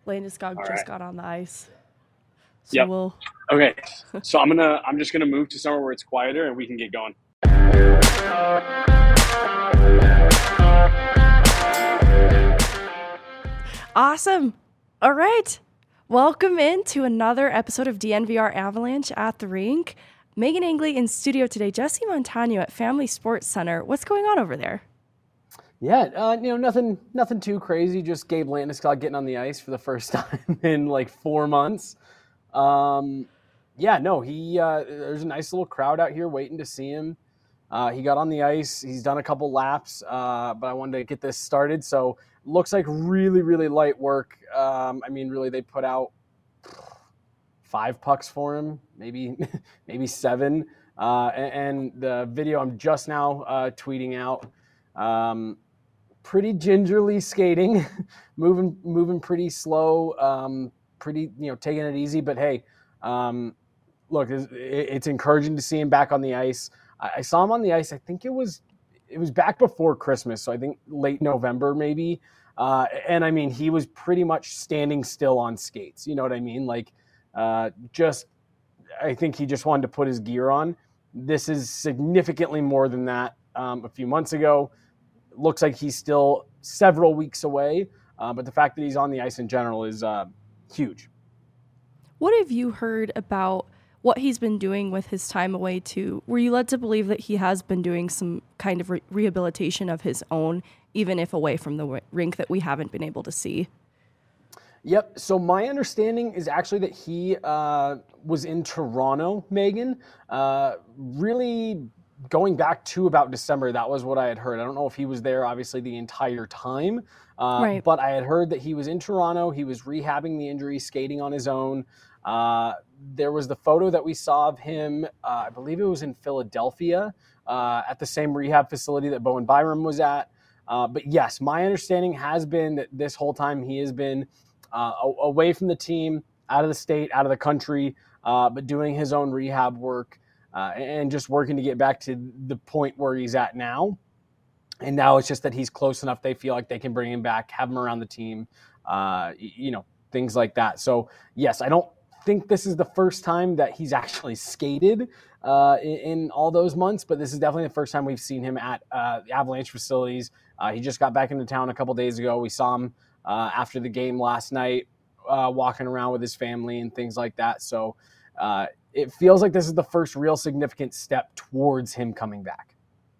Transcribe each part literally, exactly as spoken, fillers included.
Landeskog All just right. got on the ice. So Yep. we'll Okay. So I'm gonna I'm just gonna move to somewhere where it's quieter and we can get going. Awesome. All right. Welcome in to another episode of D N V R Avalanche at the Rink. Megan Angley in studio today. Jesse Montano at Family Sports Center. What's going on over there? Yeah, uh, you know, nothing nothing too crazy. Just Gabe Landeskog getting on the ice for the first time in like four months. Um, yeah, no, he uh, there's a nice little crowd out here waiting to see him. Uh, he got on the ice. He's done a couple laps, uh, but I wanted to get this started. So looks like really, really light work. Um, I mean, really, they put out five pucks for him, maybe maybe seven. Uh, and, and the video I'm just now uh, tweeting out. Um, pretty gingerly skating, moving moving pretty slow, um, pretty you know taking it easy. But hey, um, look, it's, it's encouraging to see him back on the ice. I, I saw him on the ice. I think it was it was back before Christmas, so I think late November maybe. Uh, and I mean, he was pretty much standing still on skates. You know what I mean? Like, uh, just I think he just wanted to put his gear on. This is significantly more than that. Um, a few months ago. Looks like he's still several weeks away, uh, but the fact that he's on the ice in general is uh, huge. What have you heard about what he's been doing with his time away too? Were you led to believe that he has been doing some kind of re- rehabilitation of his own, even if away from the w- rink that we haven't been able to see? Yep. So my understanding is actually that he uh, was in Toronto, Megan, uh, really going back to about December. That was what I had heard. I don't know if he was there, obviously, the entire time, uh, Right. but I had heard that he was in Toronto. He was rehabbing the injury, skating on his own. Uh, there was the photo that we saw of him, uh, I believe it was in Philadelphia, uh, at the same rehab facility that Bowen Byram was at. Uh, but yes, my understanding has been that this whole time he has been uh, away from the team, out of the state, out of the country, uh, but doing his own rehab work. Uh, and just working to get back to the point where he's at now. And now it's just that he's close enough. They feel like they can bring him back, have him around the team, uh, you know, things like that. So, yes, I don't think this is the first time that he's actually skated uh, in, in all those months, but this is definitely the first time we've seen him at uh, the Avalanche facilities. Uh, he just got back into town a couple days ago. We saw him uh, after the game last night, uh, walking around with his family and things like that. So, uh, it feels like this is the first real significant step towards him coming back.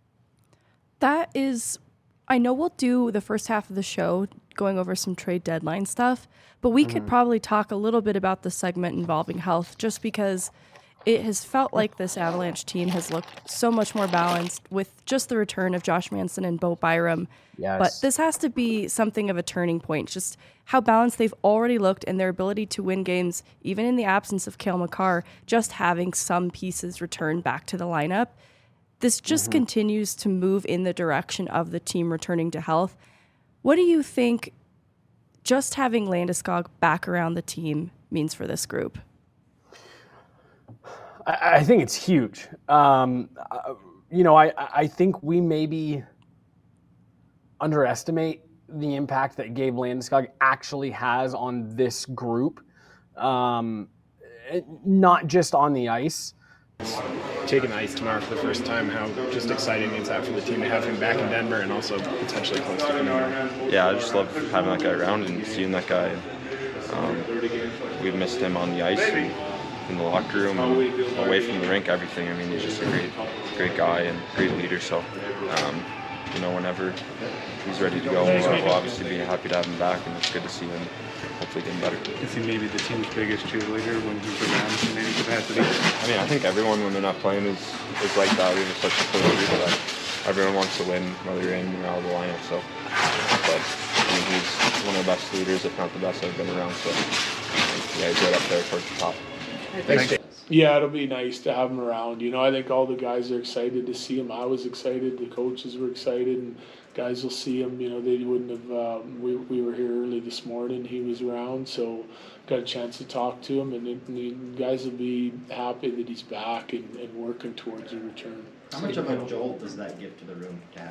That is, I know we'll do the first half of the show going over some trade deadline stuff, but we mm-hmm. could probably talk a little bit about the segment involving health, just because it has felt like this Avalanche team has looked so much more balanced with just the return of Josh Manson and Bo Byram. Yes. But this has to be something of a turning point, just how balanced they've already looked and their ability to win games, even in the absence of Cale Makar, just having some pieces return back to the lineup. This just mm-hmm. continues to move in the direction of the team returning to health. What do you think just having Landeskog back around the team means for this group? I, I think it's huge. Um, uh, you know, I, I think we maybe underestimate the impact that Gabe Landeskog actually has on this group, um, not just on the ice. Taking the ice tomorrow for the first time, how just exciting is that for the team to have him back in Denver and also potentially close to Denver? Yeah, I just love having that guy around and seeing that guy. Um, we've missed him on the ice and in the locker room, and away from the rink, everything. I mean, he's just a great, great guy and great leader. So, um, you know, whenever he's ready to go, we'll obviously be happy to have him back, and it's good to see him hopefully getting better. Is he maybe the team's biggest cheerleader when he's around in any capacity? I mean, I think everyone when they're not playing is, is like that. We have such a close group that everyone wants to win, whether you're in or out of the lineup. So, but I mean, he's one of the best leaders, if not the best I've been around. So, yeah, he's right up there towards the top. Thanks. Yeah, it'll be nice to have him around. You know, I think all the guys are excited to see him. I was excited. The coaches were excited, and guys will see him. You know, they wouldn't have. Um, we we were here early this morning. He was around, so got a chance to talk to him, and, it, and the guys will be happy that he's back and, and working towards a return. How much of a jolt does that give to the room to have him back there?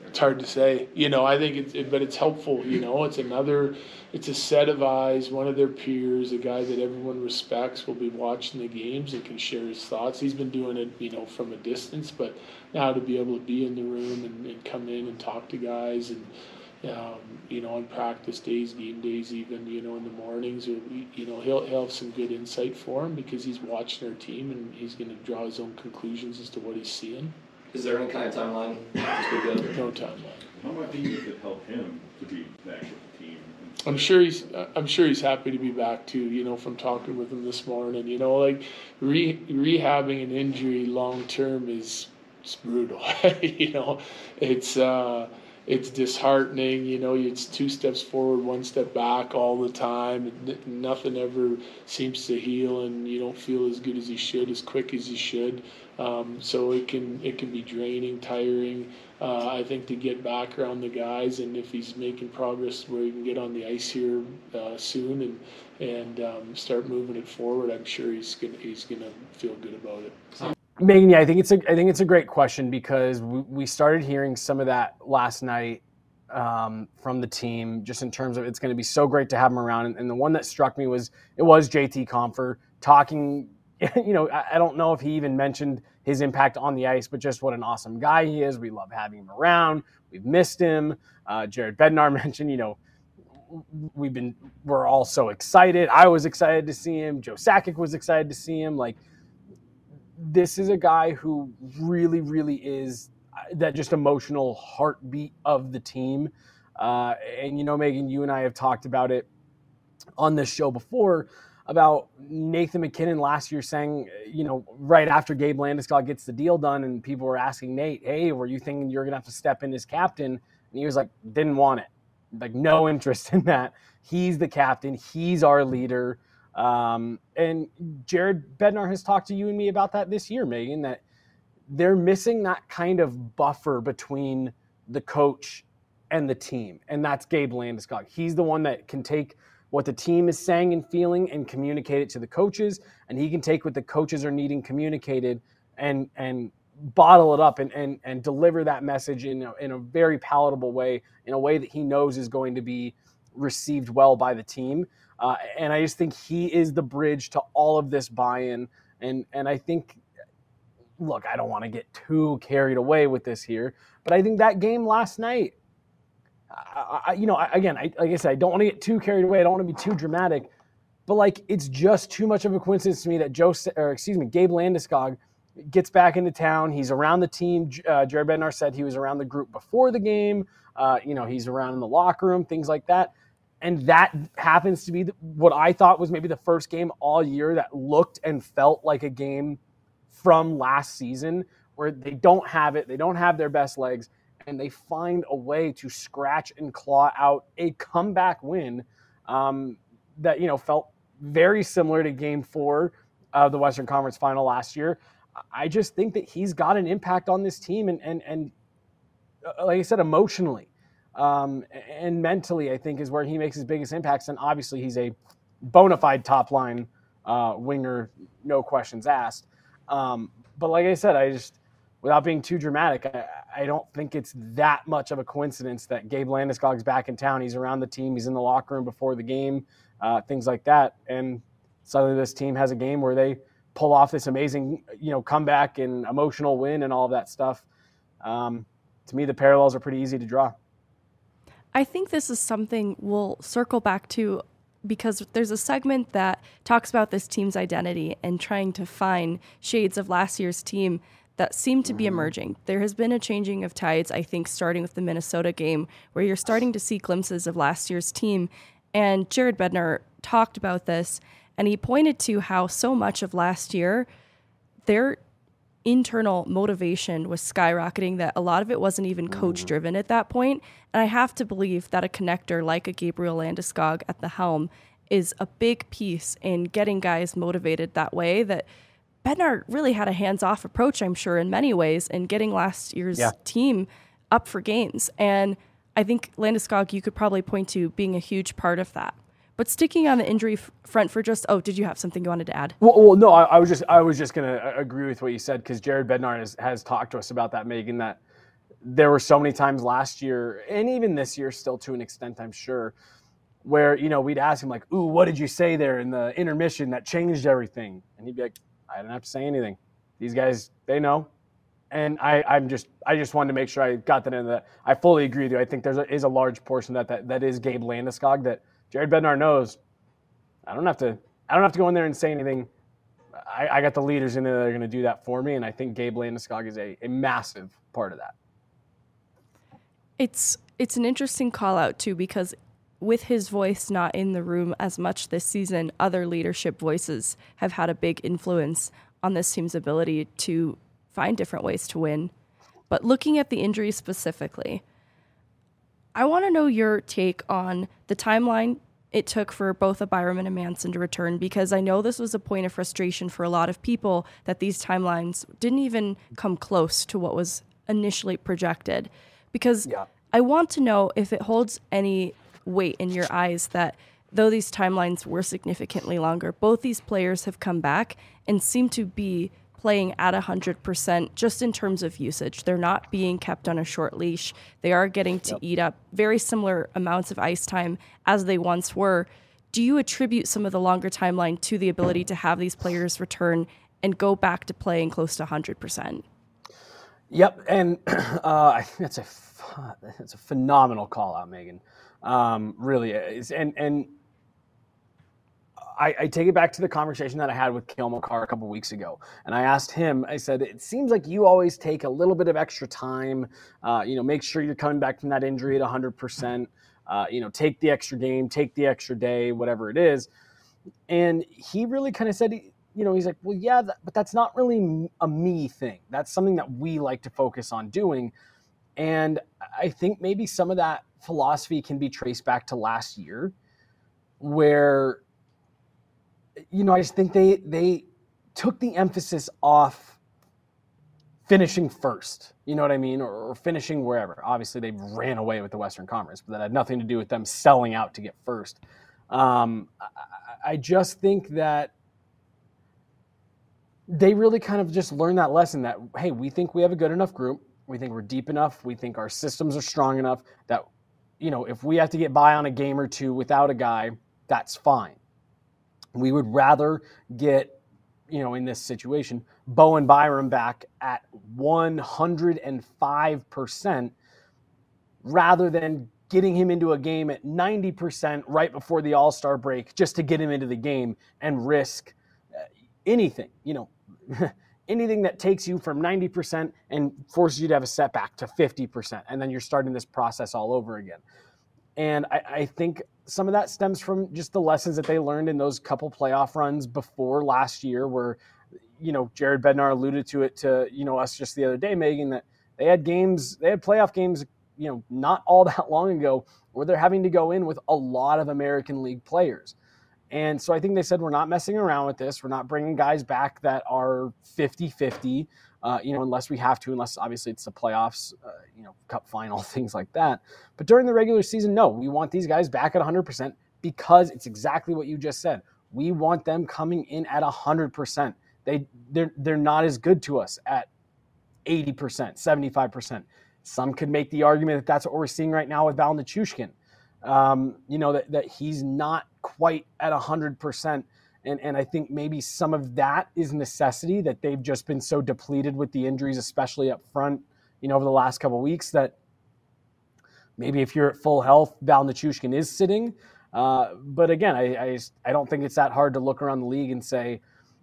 It's hard to say, you know. I think it's, it, but it's helpful. You know, it's another, it's a set of eyes. One of their peers, a guy that everyone respects, will be watching the games and can share his thoughts. He's been doing it, you know, from a distance, but now to be able to be in the room and, and come in and talk to guys, and um, you know, on practice days, game days, even, you know, in the mornings, or, you know, he'll he'll have some good insight for him because he's watching our team and he's going to draw his own conclusions as to what he's seeing. Is there any kind of timeline? No timeline. How much do you think it help him to be back with the team? I'm sure he's. I'm sure he's happy to be back too. You know, from talking with him this morning. You know, like re, rehabbing an injury long term is it's brutal. You know, it's uh, it's disheartening. You know, it's two steps forward, one step back all the time. And nothing ever seems to heal, and you don't feel as good as you should, as quick as you should. Um, so it can it can be draining, tiring. Uh, I think to get back around the guys, and if he's making progress where he can get on the ice here uh, soon and and um, start moving it forward, I'm sure he's gonna he's gonna feel good about it. Megan, yeah, I think it's a I think it's a great question because we, we started hearing some of that last night um, from the team, just in terms of it's going to be so great to have him around. And, and the one that struck me was it was J T Compher talking. You know, I, I don't know if he even mentioned his impact on the ice, but just what an awesome guy he is. We love having him around. We've missed him. Uh, Jared Bednar mentioned, you know, we've been we're all so excited. I was excited to see him. Joe Sakic was excited to see him. Like, this is a guy who really, really is that just emotional heartbeat of the team. Uh, and, you know, Megan, you and I have talked about it on this show before about Nathan MacKinnon last year saying, you know, right after Gabe Landeskog gets the deal done and people were asking Nate, hey, were you thinking you're going to have to step in as captain? And he was like, didn't want it. Like, no interest in that. He's the captain. He's our leader. Um, and Jared Bednar has talked to you and me about that this year, Megan, that they're missing that kind of buffer between the coach and the team. And that's Gabe Landeskog. He's the one that can take what the team is saying and feeling and communicate it to the coaches. And he can take what the coaches are needing communicated and, and bottle it up and, and, and deliver that message in a, in a very palatable way, in a way that he knows is going to be received well by the team. Uh, and I just think he is the bridge to all of this buy-in. And, and I think, look, I don't want to get too carried away with this here, but I think that game last night, I, I, you know, I, again, I, like I said, I don't want to get too carried away. I don't want to be too dramatic, but like, it's just too much of a coincidence to me that Joe, or excuse me, Gabe Landeskog gets back into town. He's around the team. Uh, Jared Bednar said he was around the group before the game. Uh, you know, he's around in the locker room, things like that. And that happens to be the, what I thought was maybe the first game all year that looked and felt like a game from last season where they don't have it. They don't have their best legs. And they find a way to scratch and claw out a comeback win um, that, you know, felt very similar to game four of the Western Conference Final last year. I just think that he's got an impact on this team and, and, and uh, like I said, emotionally um, and mentally, I think is where he makes his biggest impacts. And obviously he's a bona fide top line uh, winger, no questions asked. Um, but like I said, I just, without being too dramatic, I, I don't think it's that much of a coincidence that Gabe Landeskog's back in town. He's around the team. He's in the locker room before the game, uh, things like that. And suddenly this team has a game where they pull off this amazing, you know, comeback and emotional win and all of that stuff. Um, to me, the parallels are pretty easy to draw. I think this is something we'll circle back to because there's a segment that talks about this team's identity and trying to find shades of last year's team that seem to be emerging. There has been a changing of tides, I think, starting with the Minnesota game, where you're starting to see glimpses of last year's team. And Jared Bednar talked about this, and he pointed to how so much of last year, their internal motivation was skyrocketing, that a lot of it wasn't even coach-driven at that point. And I have to believe that a connector like a Gabriel Landeskog at the helm is a big piece in getting guys motivated that way, that Bednar really had a hands-off approach, I'm sure, in many ways, in getting last year's yeah. team up for games. And I think Landeskog, you could probably point to being a huge part of that. But sticking on the injury f- front for just, oh, did you have something you wanted to add? Well, well no, I, I was just I was just going to agree with what you said because Jared Bednar has, has talked to us about that, Megan, that there were so many times last year, and even this year still to an extent, I'm sure, where, you know, we'd ask him like, ooh, what did you say there in the intermission that changed everything? And he'd be like, I didn't have to say anything. These guys, they know. And I, I'm just, I just wanted to make sure I got that into that. I fully agree with you. I think there is a large portion of that, that that is Gabe Landeskog that Jared Bednar knows. I don't have to, I don't have to go in there and say anything. I, I got the leaders in there that are going to do that for me. And I think Gabe Landeskog is a, a massive part of that. It's, it's an interesting call out too, because with his voice not in the room as much this season, other leadership voices have had a big influence on this team's ability to find different ways to win. But looking at the injury specifically, I want to know your take on the timeline it took for both a Byram and a Manson to return, because I know this was a point of frustration for a lot of people that these timelines didn't even come close to what was initially projected. Because yeah. I want to know if it holds any weight in your eyes that though these timelines were significantly longer, both these players have come back and seem to be playing at one hundred percent just in terms of usage. They're not being kept on a short leash. They are getting to yep. eat up very similar amounts of ice time as they once were. Do you attribute some of the longer timeline to the ability to have these players return and go back to playing close to one hundred percent? Yep, and uh, I think that's a that's a phenomenal call out, Megan. Um, really is, and and I, I take it back to the conversation that I had with Cale Makar a couple weeks ago, and I asked him. I said, "It seems like you always take a little bit of extra time. Uh, you know, make sure you're coming back from that injury at one hundred percent. Uh, you know, take the extra game, take the extra day, whatever it is." And he really kind of said, you know, he's like, "Well, yeah, that, but that's not really a me thing. That's something that we like to focus on doing." And I think maybe some of that philosophy can be traced back to last year, where, you know, I just think they they took the emphasis off finishing first, you know what I mean, or, or finishing wherever. Obviously, they ran away with the Western Conference, but that had nothing to do with them selling out to get first. Um, I, I just think that they really kind of just learned that lesson that, hey, we think we have a good enough group. We think we're deep enough. We think our systems are strong enough that, you know, if we have to get by on a game or two without a guy, that's fine. We would rather get, you know, in this situation, Bowen Byram back at one hundred five percent rather than getting him into a game at ninety percent right before the All-Star break just to get him into the game and risk anything, you know, anything that takes you from ninety percent and forces you to have a setback to fifty percent. And then you're starting this process all over again. And I, I think some of that stems from just the lessons that they learned in those couple playoff runs before last year where, you know, Jared Bednar alluded to it to, you know, us just the other day, Megan, that they had games, they had playoff games, you know, not all that long ago where they're having to go in with a lot of American League players. And so I think they said, we're not messing around with this. We're not bringing guys back that are fifty-fifty, uh, you know, unless we have to, unless obviously it's the playoffs, uh, you know, cup final, things like that. But during the regular season, no, we want these guys back at one hundred percent because it's exactly what you just said. We want them coming in at one hundred percent. They, they're, they're not as good to us at eighty percent, seventy-five percent. Some could make the argument that that's what we're seeing right now with Val Nichushkin. Um, you know, that, that he's not quite at one hundred percent. And, and I think maybe some of that is necessity, that they've just been so depleted with the injuries, especially up front, you know, over the last couple of weeks, that maybe if you're at full health, Val Nichushkin is sitting. Uh, but again, I, I, I don't think it's that hard to look around the league and say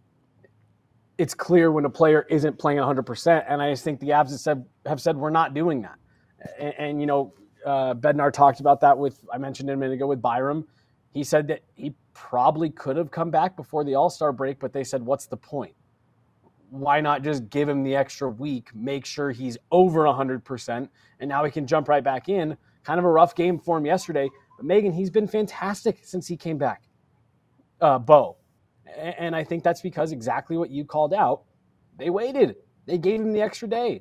it's clear when a player isn't playing one hundred percent. And I just think the Avs have said, have said we're not doing that. And, and you know, uh, Bednar talked about that with, I mentioned it a minute ago with Byram. He said that he probably could have come back before the All-Star break, but they said, what's the point? Why not just give him the extra week, make sure he's over one hundred percent, and now he can jump right back in. Kind of a rough game for him yesterday. But Megan, he's been fantastic since he came back, uh, Bo. And I think that's because exactly what you called out. They waited. They gave him the extra day.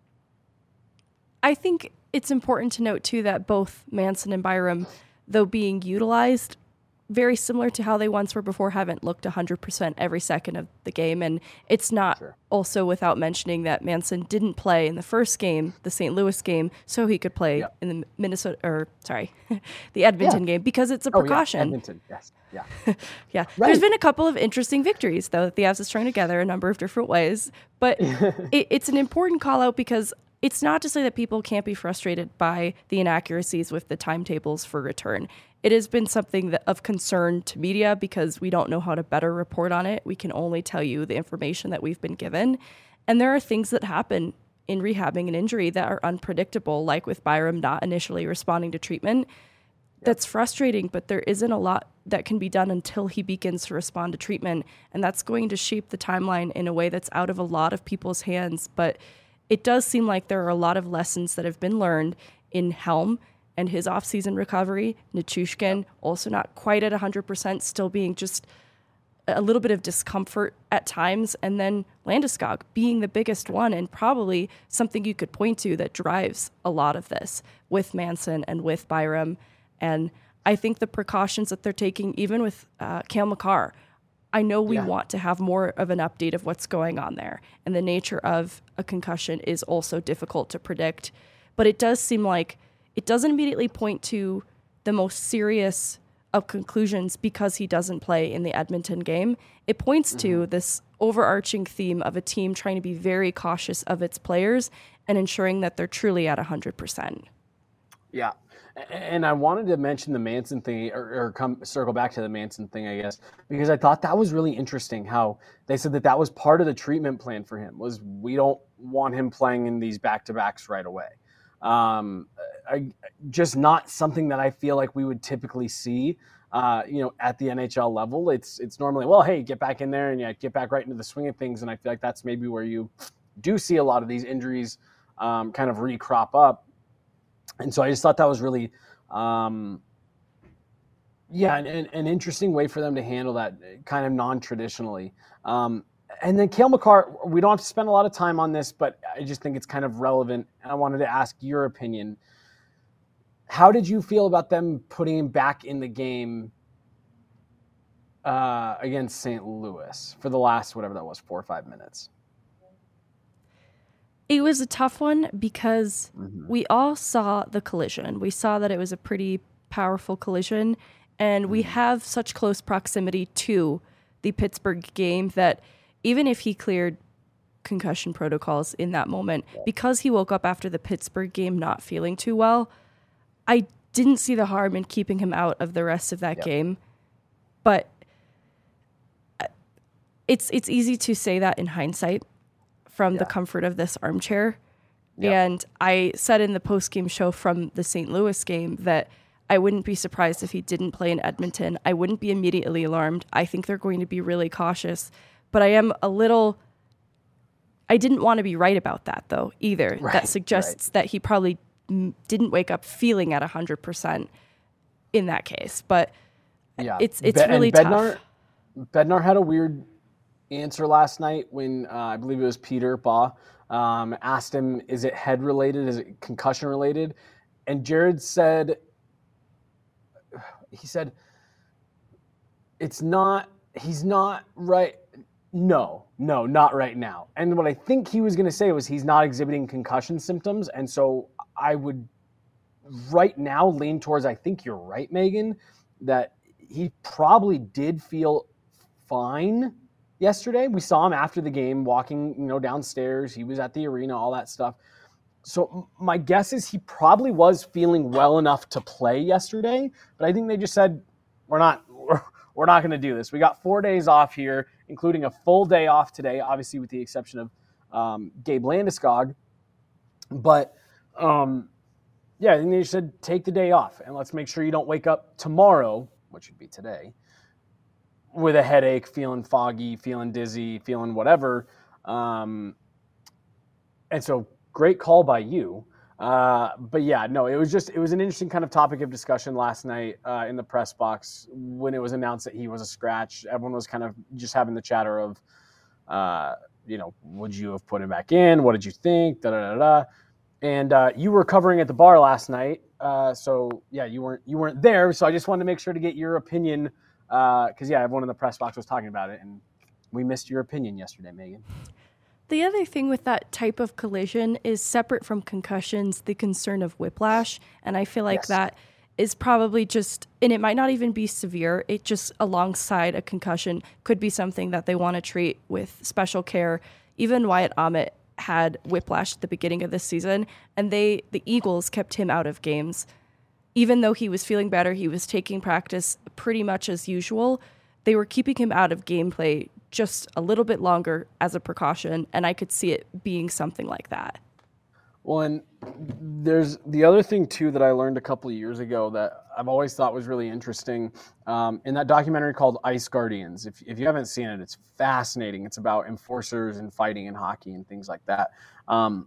I think it's important to note, too, that both Manson and Byram, though being utilized, very similar to how they once were before, haven't looked one hundred percent every second of the game. And it's not sure. Also without mentioning that Manson didn't play in the first game, the Saint Louis game, so he could play yep. in the Minnesota, or sorry, the Edmonton yeah. game, because it's a precaution. Oh, yeah. Edmonton, yes. Yeah. yeah. Right. There's been a couple of interesting victories, though, that the Avs have strung together a number of different ways. But it, it's an important call out because it's not to say that people can't be frustrated by the inaccuracies with the timetables for return. It has been something that, of concern to media because we don't know how to better report on it. We can only tell you the information that we've been given. And there are things that happen in rehabbing an injury that are unpredictable, like with Byram not initially responding to treatment. Yep. That's frustrating, but there isn't a lot that can be done until he begins to respond to treatment. And that's going to shape the timeline in a way that's out of a lot of people's hands. But it does seem like there are a lot of lessons that have been learned in Helm and his off-season recovery. Nichushkin also not quite at one hundred percent, still being just a little bit of discomfort at times. And then Landeskog being the biggest one, and probably something you could point to that drives a lot of this with Manson and with Byram. And I think the precautions that they're taking, even with uh, Cale Makar, I know we yeah. want to have more of an update of what's going on there. And the nature of a concussion is also difficult to predict. But it does seem like it doesn't immediately point to the most serious of conclusions because he doesn't play in the Edmonton game. It points mm-hmm. to this overarching theme of a team trying to be very cautious of its players and ensuring that they're truly at one hundred percent. Yeah. And I wanted to mention the Manson thing, or, or come circle back to the Manson thing, I guess, because I thought that was really interesting how they said that that was part of the treatment plan for him, was we don't want him playing in these back-to-backs right away. Um, I, just not something that I feel like we would typically see, uh, you know, at the N H L level. It's it's normally, well, hey, get back in there and yeah, get back right into the swing of things. And I feel like that's maybe where you do see a lot of these injuries um, kind of re-crop up. And so I just thought that was really, um, yeah, an, an interesting way for them to handle that kind of non-traditionally. Um, and then Cale Makar, we don't have to spend a lot of time on this, but I just think it's kind of relevant. And I wanted to ask your opinion. How did you feel about them putting him back in the game uh, against Saint Louis for the last, whatever that was, four or five minutes? It was a tough one because mm-hmm. we all saw the collision. We saw that it was a pretty powerful collision, and mm-hmm. we have such close proximity to the Pittsburgh game that even if he cleared concussion protocols in that moment, because he woke up after the Pittsburgh game not feeling too well, I didn't see the harm in keeping him out of the rest of that yep. game. But it's it's easy to say that in hindsight, from yeah. the comfort of this armchair. Yep. And I said in the post-game show from the Saint Louis game that I wouldn't be surprised if he didn't play in Edmonton. I wouldn't be immediately alarmed. I think they're going to be really cautious. But I am a little... I didn't want to be right about that, though, either. Right, that suggests right. that he probably m- didn't wake up feeling at one hundred percent in that case. But yeah. it's it's Be- really Bednar, tough. Bednar had a weird answer last night when uh, I believe it was Peter Baugh um, asked him, is it head related? Is it concussion related? And Jared said, he said, it's not, he's not right. No, no, not right now. And what I think he was going to say was he's not exhibiting concussion symptoms. And so I would right now lean towards, I think you're right, Megan, that he probably did feel fine yesterday. We saw him after the game walking, you know, downstairs. He was at the arena, all that stuff. So my guess is he probably was feeling well enough to play yesterday, but I think they just said, we're not, we're, we're not going to do this. We got four days off here, including a full day off today, obviously with the exception of um, Gabe Landeskog. But um, yeah, I think they just said, take the day off and let's make sure you don't wake up tomorrow, which would be today, with a headache, feeling foggy, feeling dizzy, feeling whatever. Um, and so great call by you. Uh, but yeah, no, it was just, it was an interesting kind of topic of discussion last night uh, in the press box when it was announced that he was a scratch. Everyone was kind of just having the chatter of, uh, you know, would you have put him back in? What did you think? Da, da, da, da. And uh, you were covering at the bar last night Uh, so yeah, you weren't you weren't there. So I just wanted to make sure to get your opinion because uh, yeah, everyone in the press box was talking about it, and we missed your opinion yesterday, Megan. The other thing with that type of collision is separate from concussions, the concern of whiplash. And I feel like yes. that is probably just, and it might not even be severe. It just alongside a concussion could be something that they want to treat with special care. Even Wyatt Ahmet had whiplash at the beginning of this season, and they, the Eagles kept him out of games. Even though he was feeling better, he was taking practice pretty much as usual. They were keeping him out of gameplay just a little bit longer as a precaution, and I could see it being something like that. Well, and there's the other thing, too, that I learned a couple of years ago that I've always thought was really interesting um, in that documentary called Ice Guardians. If, if you haven't seen it, it's fascinating. It's about enforcers and fighting in hockey and things like that. Um,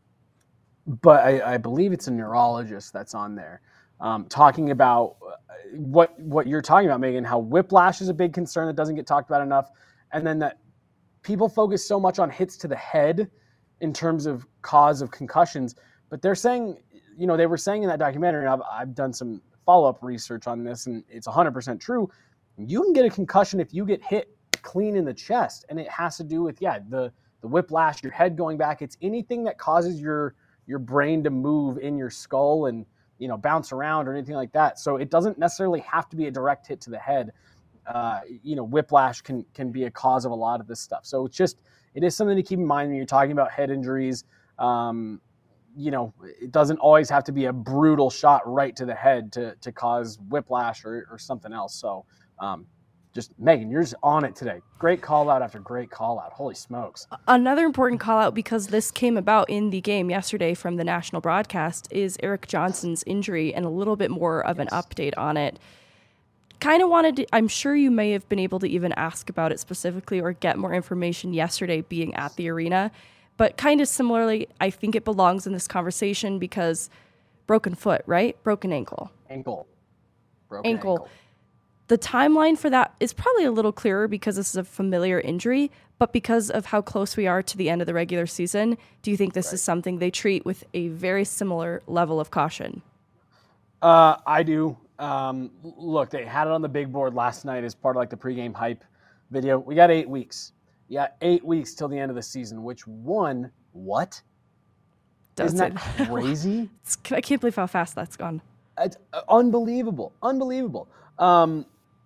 but I, I believe it's a neurologist that's on there um, talking about what what you're talking about, Megan, how whiplash is a big concern that doesn't get talked about enough. And then that people focus so much on hits to the head in terms of cause of concussions. But they're saying, you know, they were saying in that documentary, and I've, I've done some follow-up research on this, and it's one hundred percent true. You can get a concussion if you get hit clean in the chest. And it has to do with, yeah, the, the whiplash, your head going back. It's anything that causes your your brain to move in your skull and, you know, bounce around or anything like that. So it doesn't necessarily have to be a direct hit to the head. Uh, you know, whiplash can can be a cause of a lot of this stuff. So it's just, it is something to keep in mind when you're talking about head injuries. Um, you know, it doesn't always have to be a brutal shot right to the head to to cause whiplash or, or something else. So um, just, Megan, you're just on it today. Great call out after great call out. Holy smokes. Another important call out, because this came about in the game yesterday from the national broadcast, is Erik Johnson's injury and a little bit more of an Yes. update on it. Kind of wanted to, I'm sure you may have been able to even ask about it specifically or get more information yesterday being at the arena. But kind of similarly, I think it belongs in this conversation because broken foot, right? Broken ankle. Ankle. Broken Ankle. ankle. The timeline for that is probably a little clearer because this is a familiar injury, but because of how close we are to the end of the regular season, do you think this Right. is something they treat with a very similar level of caution? Uh, I do. Um, look, they had it on the big board last night as part of like the pregame hype video. We got eight weeks. Yeah, eight weeks till the end of the season, which one, what? Does Isn't it? that crazy? It's, I can't believe how fast that's gone. It's uh, unbelievable. Unbelievable. Um,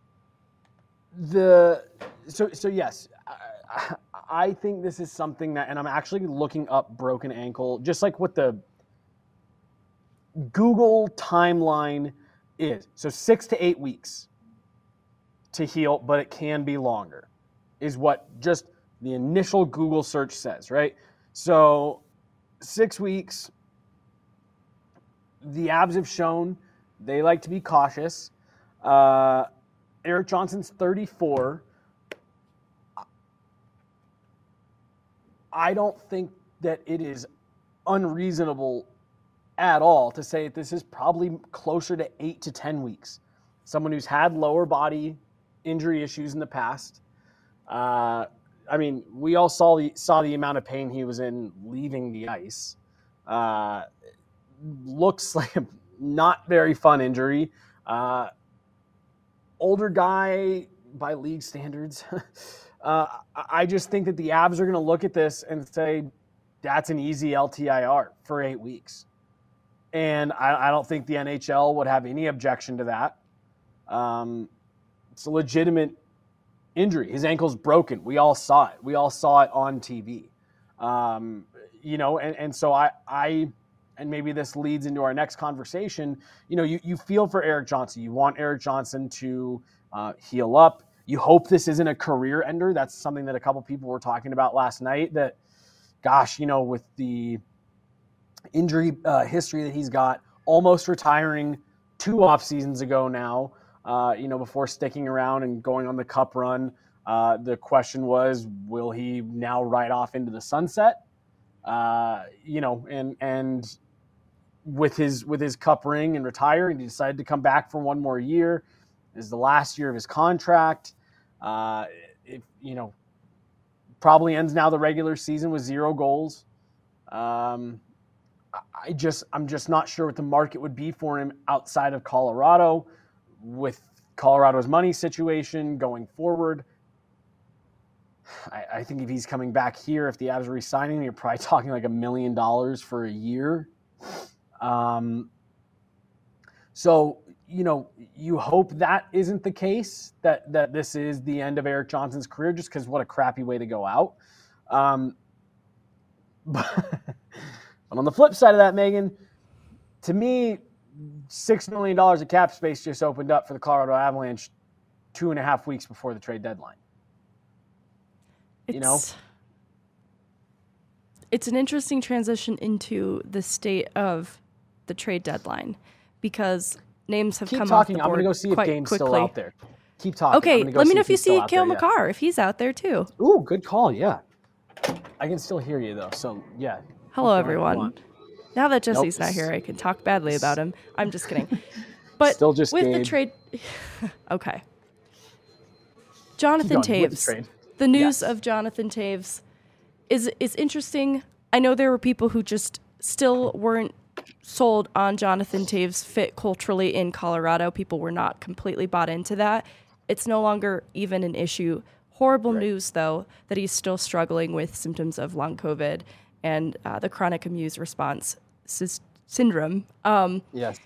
the so so yes, I, I think this is something that, and I'm actually looking up broken ankle, just like what the Google timeline is. So six to eight weeks to heal, but it can be longer, is what just the initial Google search says, right? So six weeks. The Abs have shown they like to be cautious. Uh, Erik Johnson's thirty-four. I don't think that it is unreasonable at all to say that this is probably closer to eight to ten weeks. Someone who's had lower body injury issues in the past. Uh, I mean, we all saw the saw the amount of pain he was in leaving the ice. Uh, looks like a not very fun injury. Uh, older guy by league standards. uh, I just think that the Abs are going to look at this and say, that's an easy L T I R for eight weeks. And I, I don't think the N H L would have any objection to that. Um, it's a legitimate injury. His ankle's broken. We all saw it. We all saw it on T V. Um, you know, and, and so I, I, and maybe this leads into our next conversation, you know, you, you feel for Erik Johnson. You want Erik Johnson to uh, heal up. You hope this isn't a career ender. That's something that a couple people were talking about last night, that, gosh, you know, with the injury uh, history that he's got, almost retiring two off seasons ago now, uh, you know, before sticking around and going on the cup run. Uh, the question was, will he now ride off into the sunset? Uh, you know, and, and with his, with his cup ring and retire, and he decided to come back for one more year. This is the last year of his contract. Uh, if, you know, probably ends now the regular season with zero goals. Um, I just, I'm just not sure what the market would be for him outside of Colorado with Colorado's money situation going forward. I, I think if he's coming back here, if the Avs are re-signing him, you're probably talking like a million dollars for a year. Um, so, you know, you hope that isn't the case, that that this is the end of Erik Johnson's career, just because what a crappy way to go out. Um, but, but on the flip side of that, Megan, to me, six million dollars of cap space just opened up for the Colorado Avalanche two and a half weeks before the trade deadline. It's, you know? It's an interesting transition into the state of the trade deadline because names have Keep come talking. off the I'm board going to go see if quite Game's quickly. still out there. Keep talking. Okay, go let me see know if you he's still see out Cale there, yeah. Makar, if he's out there too. Ooh, good call. Yeah. I can still hear you, though. So, yeah. Hello, Okay, everyone. Now that Jesse's Nope. not here, I can talk badly about him. I'm just kidding. But Still just with the Gabe. trade... okay. Keep Jonathan going with the Taves. trade. The news Yes. of Jonathan Taves is is interesting. I know there were people who just still weren't sold on Jonathan Taves' fit culturally in Colorado. People were not completely bought into that. It's no longer even an issue. Horrible Right. news, though, that he's still struggling with symptoms of long COVID and uh, the chronic immune response sys- syndrome. Um, Yes.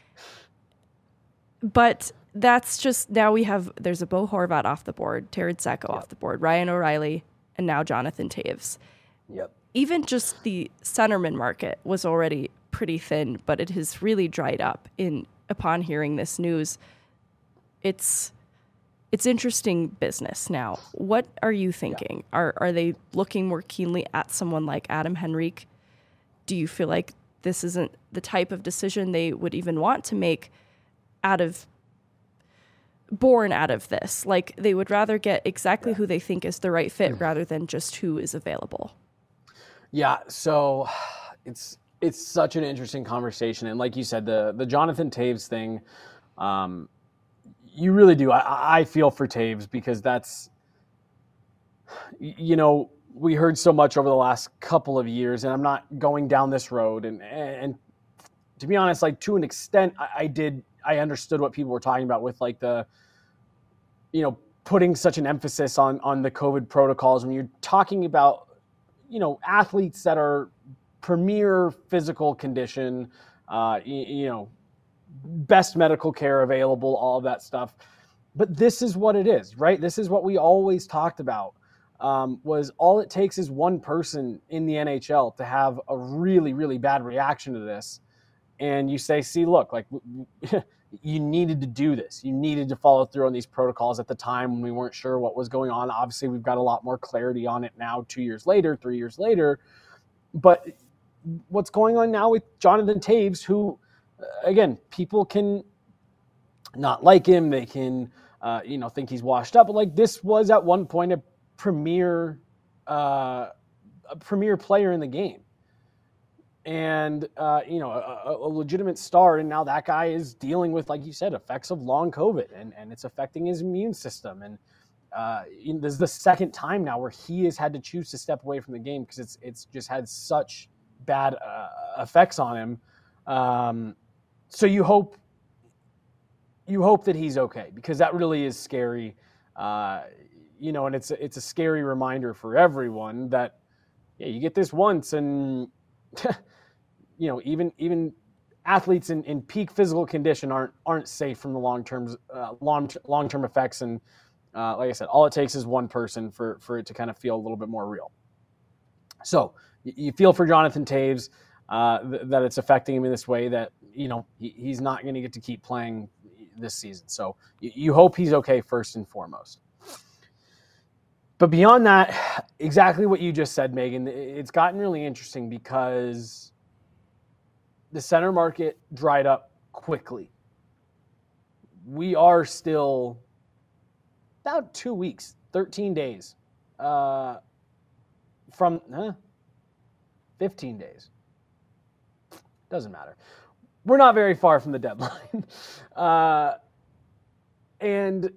but that's just, now we have, there's a Bo Horvat off the board, Terrence Sacco off the board, Ryan O'Reilly, and now Jonathan Taves. Yep. Even just the centerman market was already pretty thin, but it has really dried up in upon hearing this news. It's it's interesting business now. What are you thinking? Yeah. Are are they looking more keenly at someone like Adam Henrique? Do you feel like this isn't the type of decision they would even want to make out of born out of this? Like they would rather get exactly yeah. who they think is the right fit rather than just who is available. Yeah, so it's it's such an interesting conversation, and like you said, the the Jonathan Taves thing, um, you really do. I, I feel for Taves because that's, you know, we heard so much over the last couple of years, and I'm not going down this road, and and to be honest, like to an extent, I, I did I understood what people were talking about with like the, you know, putting such an emphasis on on the COVID protocols when you're talking about, you know, athletes that are premier physical condition, uh, you, you know, best medical care available, all of that stuff. But this is what it is, right? This is what we always talked about, um, was all it takes is one person in the N H L to have a really, really bad reaction to this. And you say, see, look, like you needed to do this. You needed to follow through on these protocols at the time when we weren't sure what was going on. Obviously, we've got a lot more clarity on it now, two years later, three years later. But what's going on now with Jonathan Taves, who, again, people can not like him. They can, uh, you know, think he's washed up. But like this was at one point a premier, uh, a premier player in the game. And, uh, you know, a, a legitimate star. And now that guy is dealing with, like you said, effects of long COVID, and, and it's affecting his immune system. And uh, you know, this is the second time now where he has had to choose to step away from the game because it's it's just had such bad uh, effects on him. Um, so you hope you hope that he's okay, because that really is scary. Uh, you know, and it's it's a scary reminder for everyone that, yeah, you get this once and you know, even even athletes in, in peak physical condition aren't aren't safe from the long term uh, long long term effects. And uh, like I said, all it takes is one person for for it to kind of feel a little bit more real. So you, you feel for Jonathan Taves uh, th- that it's affecting him in this way, that, you know, he, he's not going to get to keep playing this season. So you, you hope he's okay first and foremost. But beyond that, exactly what you just said, Megan, it's gotten really interesting because the center market dried up quickly. We are still about two weeks, thirteen days uh, from huh, fifteen days. Doesn't matter. We're not very far from the deadline. uh, and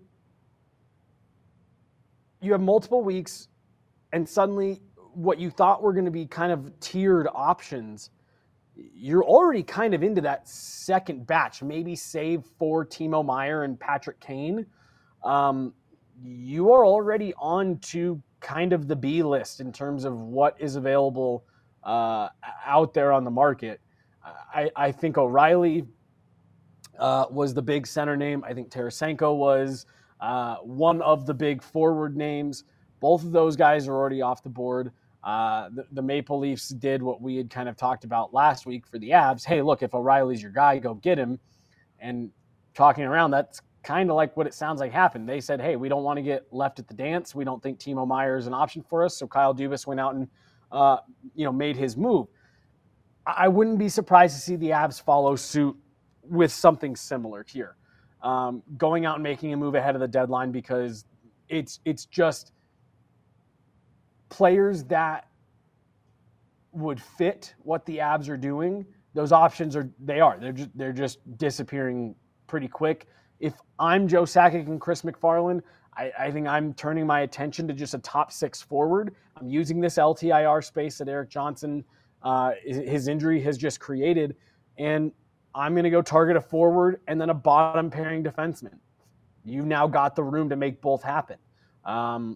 you have multiple weeks, and suddenly what you thought were going to be kind of tiered options you're already kind of into that second batch, maybe save for Timo Meier and Patrick Kane. Um, you are already on to kind of the B list in terms of what is available uh, out there on the market. I, I think O'Reilly uh, was the big center name. I think Tarasenko was uh, one of the big forward names. Both of those guys are already off the board. Uh, the, the Maple Leafs did what we had kind of talked about last week for the Avs. Hey, look, if O'Reilly's your guy, go get him. And talking around, that's kind of like what it sounds like happened. They said, hey, we don't want to get left at the dance. We don't think Timo Meier is an option for us. So Kyle Dubas went out and, uh, you know, made his move. I wouldn't be surprised to see the Avs follow suit with something similar here. Um, going out and making a move ahead of the deadline, because it's it's just players that would fit what the Avs are doing. Those options are, they are, they're just, they're just disappearing pretty quick. If I'm Joe Sakic and Chris McFarland, I, I think I'm turning my attention to just a top six forward. I'm using this L T I R space that Erik Johnson, uh, his injury has just created, and I'm going to go target a forward and then a bottom pairing defenseman. You've now got the room to make both happen. Um,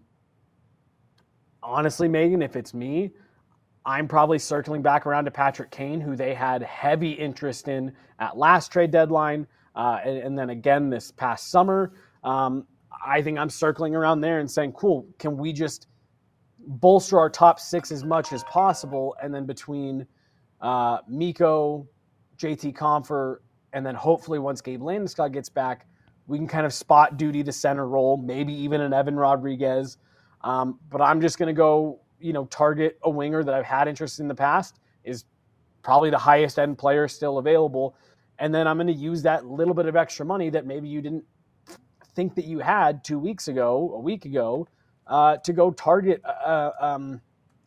honestly, Megan, if it's me, I'm probably circling back around to Patrick Kane, who they had heavy interest in at last trade deadline, uh, and, and then again this past summer. Um, I think I'm circling around there and saying, cool, can we just bolster our top six as much as possible? And then between uh, Mikko, J T Compher, and then hopefully once Gabe Landeskog gets back, we can kind of spot duty the center role, maybe even an Evan Rodriguez. Um, but I'm just going to go, you know, target a winger that I've had interest in the past, is probably the highest end player still available. And then I'm going to use that little bit of extra money that maybe you didn't think that you had two weeks ago, a week ago, uh, to go target, uh, um,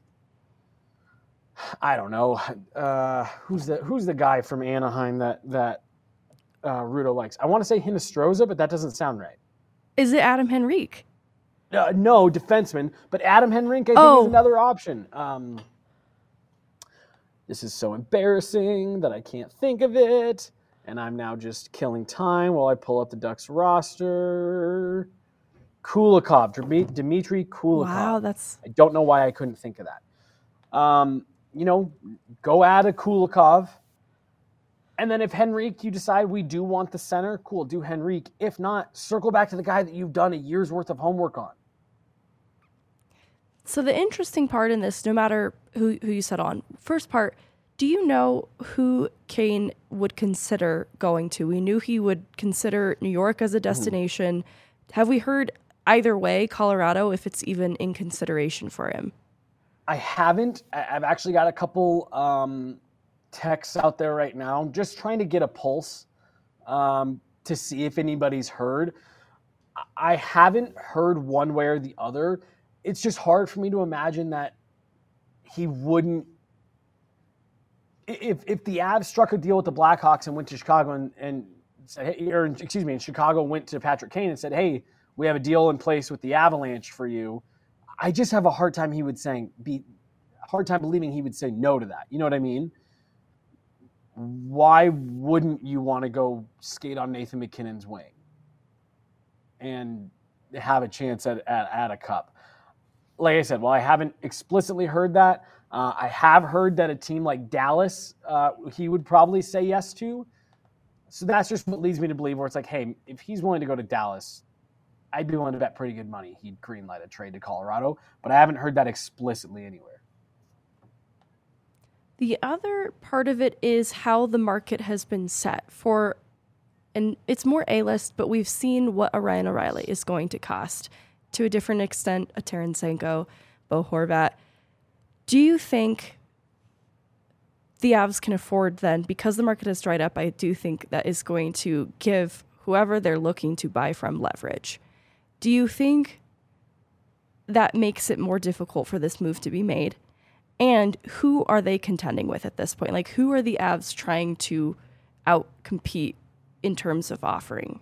I don't know, uh, who's the who's the guy from Anaheim that that uh, Rudo likes? I want to say Hinostroza, but that doesn't sound right. Is it Adam Henrique? Uh, no, defenseman, but Adam Henrique, I think, Oh. is another option. Um, this is so embarrassing that I can't think of it, and I'm now just killing time while I pull up the Ducks roster. Kulikov, Dmi- Dmitry Kulikov. Wow, that's I don't know why I couldn't think of that. Um, you know, go add a Kulikov. And then if Henrique, you decide we do want the center, cool, do Henrique. If not, circle back to the guy that you've done a year's worth of homework on. So the interesting part in this, no matter who, who you set on, first part, do you know who Kane would consider going to? We knew he would consider New York as a destination. Mm-hmm. Have we heard either way, Colorado, if it's even in consideration for him? I haven't. I've actually got a couple um, texts out there right now, just trying to get a pulse um, to see if anybody's heard. I haven't heard one way or the other. It's just hard for me to imagine that he wouldn't. If if the Avs struck a deal with the Blackhawks and went to Chicago and, and said, hey, or excuse me, and Chicago went to Patrick Kane and said, hey, we have a deal in place with the Avalanche for you, I just have a hard time he would saying be hard time believing he would say no to that. You know what I mean? Why wouldn't you want to go skate on Nathan McKinnon's wing and have a chance at, at, at a cup? Like I said, well, I haven't explicitly heard that. Uh, I have heard that a team like Dallas, uh, he would probably say yes to. So that's just what leads me to believe where it's like, hey, if he's willing to go to Dallas, I'd be willing to bet pretty good money he'd greenlight a trade to Colorado. But I haven't heard that explicitly anywhere. The other part of it is how the market has been set for, and it's more A-list, but we've seen what a Ryan O'Reilly is going to cost. To a different extent, a Tarasenko, Bo Horvat. Do you think the Avs can afford then, because the market has dried up, I do think that is going to give whoever they're looking to buy from leverage. Do you think that makes it more difficult for this move to be made? And who are they contending with at this point? Like, who are the Avs trying to out-compete in terms of offering?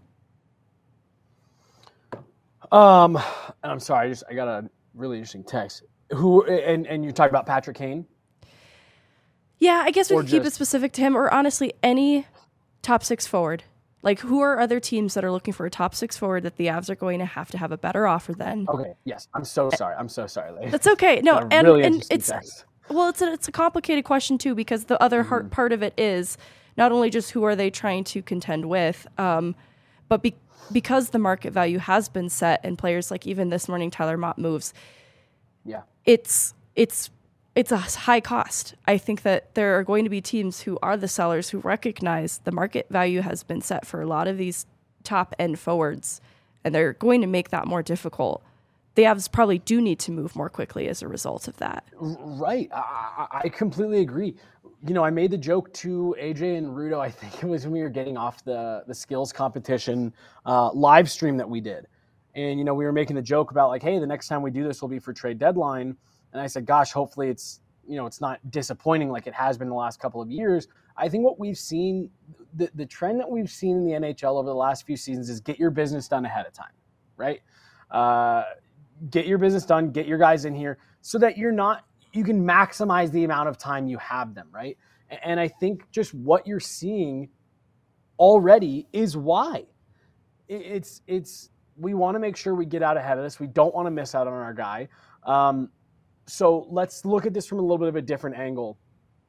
Um, I'm sorry, I just I got a really interesting text. Who and and you're talking about Patrick Kane? Yeah, I guess we Or could keep it just- specific to him, or honestly, any top six forward. Like, who are other teams that are looking for a top six forward that the Avs are going to have to have a better offer than? Okay, yes. I'm so sorry. I'm so sorry, lady. That's okay. No, That's a and, really and interesting it's text. well, it's a, it's a complicated question too, because the other Mm-hmm. hard part of it is not only just who are they trying to contend with, um, but be, because the market value has been set, and players like even this morning Tyler Mott moves. Yeah. It's it's it's a high cost. I think that there are going to be teams who are the sellers who recognize the market value has been set for a lot of these top end forwards, and they're going to make that more difficult. The Avs probably do need to move more quickly as a result of that. Right. I, I I completely agree. You know, I made the joke to A J and Rudo, I think it was when we were getting off the, the skills competition uh, live stream that we did. And, you know, we were making the joke about like, hey, the next time we do this will be for trade deadline. And I said, gosh, hopefully it's, you know, it's not disappointing like it has been the last couple of years. I think what we've seen, the, the trend that we've seen in the N H L over the last few seasons is get your business done ahead of time, right? Uh, get your business done, get your guys in here so that you're not, you can maximize the amount of time you have them, right? And I think just what you're seeing already is why. It's, it's, we want to make sure we get out ahead of this. We don't want to miss out on our guy. Um, so let's look at this from a little bit of a different angle.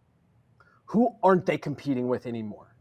Who aren't they competing with anymore?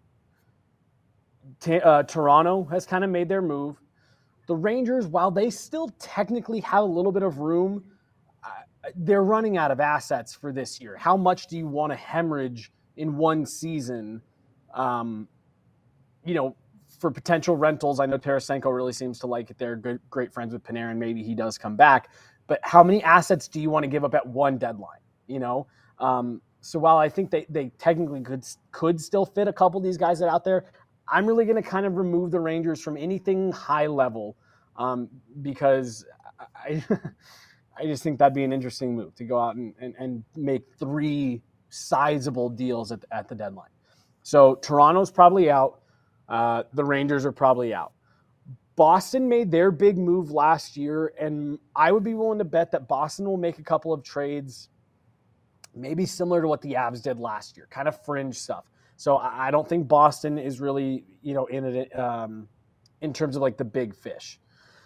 T- uh, Toronto has kind of made their move. The Rangers, while they still technically have a little bit of room, uh, they're running out of assets for this year. How much do you want to hemorrhage in one season, um, you know, for potential rentals? I know Tarasenko really seems to like it. They're good, great friends with Panarin. Maybe he does come back. But how many assets do you want to give up at one deadline? You know, um, so while I think they, they technically could could still fit a couple of these guys that are out there, I'm really going to kind of remove the Rangers from anything high level um, because I I just think that'd be an interesting move to go out and, and, and make three sizable deals at, at the deadline. So Toronto's probably out. Uh, the Rangers are probably out. Boston made their big move last year, and I would be willing to bet that Boston will make a couple of trades maybe similar to what the Avs did last year, kind of fringe stuff. So I don't think Boston is really, you know, in it um, in terms of like the big fish.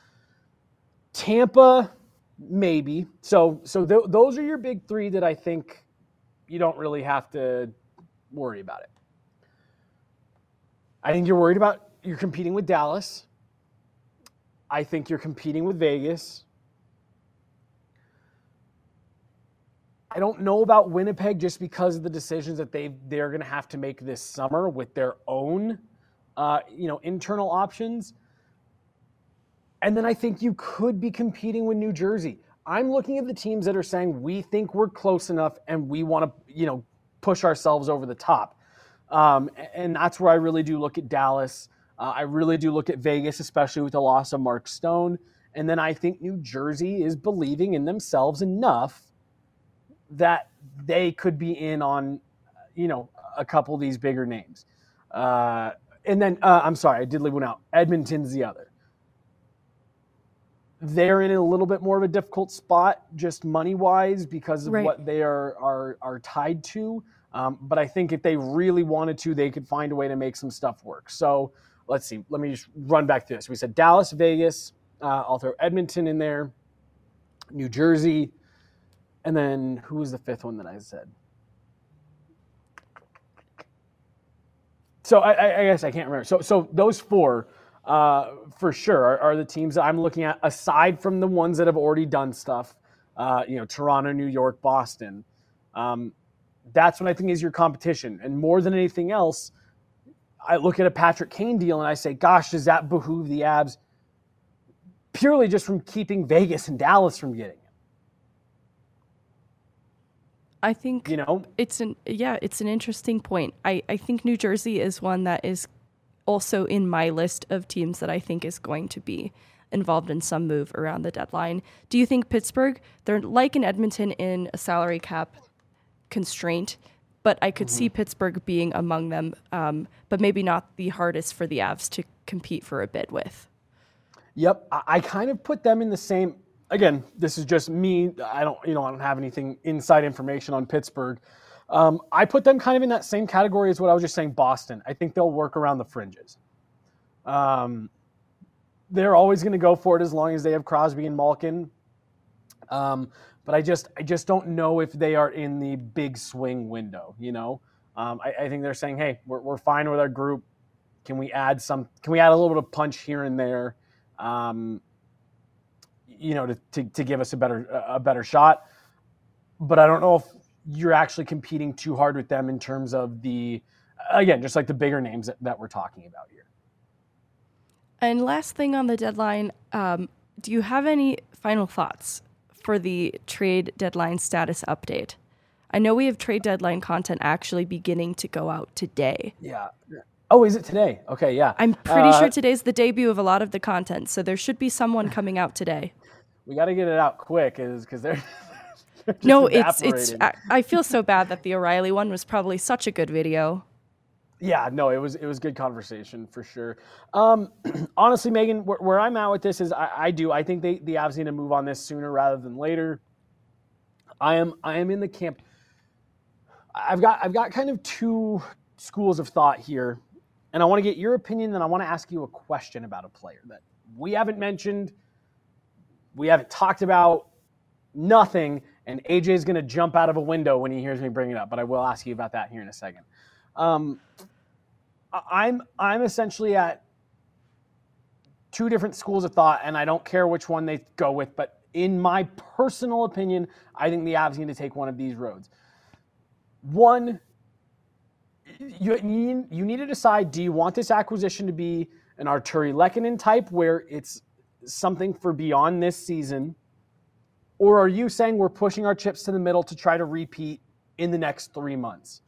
Tampa, maybe. So so th- those are your big three that I think you don't really have to worry about it. I think you're worried about you're competing with Dallas. I think you're competing with Vegas. I don't know about Winnipeg just because of the decisions that they they're going to have to make this summer with their own, uh, you know, internal options. And then I think you could be competing with New Jersey. I'm looking at the teams that are saying we think we're close enough and we want to, you know, push ourselves over the top. Um, and that's where I really do look at Dallas. Uh, I really do look at Vegas, especially with the loss of Mark Stone. And then I think New Jersey is believing in themselves enough that they could be in on, you know, a couple of these bigger names. Uh, and then, uh, I'm sorry, I did leave one out. Edmonton's the other. They're in a little bit more of a difficult spot, just money-wise, because of Right. what they are are are tied to. Um, but I think if they really wanted to, they could find a way to make some stuff work. So let's see. Let me just run back through this. We said Dallas, Vegas. Uh, I'll throw Edmonton in there. New Jersey. And then who was the fifth one that I said? So I, I guess I can't remember. So so those four, uh, for sure, are, are the teams that I'm looking at, aside from the ones that have already done stuff. Uh, you know, Toronto, New York, Boston. Um, that's what I think is your competition. And more than anything else, I look at a Patrick Kane deal and I say, gosh, does that behoove the Avs purely just from keeping Vegas and Dallas from getting? I think You know, it's an yeah, it's an interesting point. I, I think New Jersey is one that is also in my list of teams that I think is going to be involved in some move around the deadline. Do you think Pittsburgh, they're like in Edmonton in a salary cap constraint, but I could mm-hmm. see Pittsburgh being among them, um, but maybe not the hardest for the Avs to compete for a bid with. Yep, I, I kind of put them in the same. Again, this is just me. I don't, you know, I don't have anything inside information on Pittsburgh. Um, I put them kind of in that same category as what I was just saying, Boston. I think they'll work around the fringes. Um, they're always going to go for it as long as they have Crosby and Malkin. Um, but I just I just don't know if they are in the big swing window, you know? Um, I, I think they're saying, hey, we're we're fine with our group. Can we add some? Can we add a little bit of punch here and there, um, you know, to, to to give us a better a better shot? But I don't know if you're actually competing too hard with them in terms of the, again, just like the bigger names that, that we're talking about here. And last thing on the deadline, um, do you have any final thoughts for the trade deadline status update? I know we have trade deadline content actually beginning to go out today. Yeah. Oh, is it today? Okay, yeah. I'm pretty uh, sure today's the debut of a lot of the content, so there should be someone coming out today. We got to get it out quick, is because they're, they're just no, it's it's. evaporating. I, I feel so bad that the O'Reilly one was probably such a good video. Yeah, no, it was it was good conversation for sure. Um, honestly, Megan, where, where I'm at with this is I, I do I think they the Avs need to move on this sooner rather than later. I am I am in the camp. I've got I've got kind of two schools of thought here, and I want to get your opinion. Then I want to ask you a question about a player that we haven't mentioned, we haven't talked about, nothing. And A J is going to jump out of a window when he hears me bring it up, but I will ask you about that here in a second. Um, I'm I'm essentially at two different schools of thought, and I don't care which one they go with, but in my personal opinion, I think the Avs need to take one of these roads. One, you, you, you need to decide, do you want this acquisition to be an Arturi Lehkonen type where it's something for beyond this season, or are you saying we're pushing our chips to the middle to try to repeat in the next three months?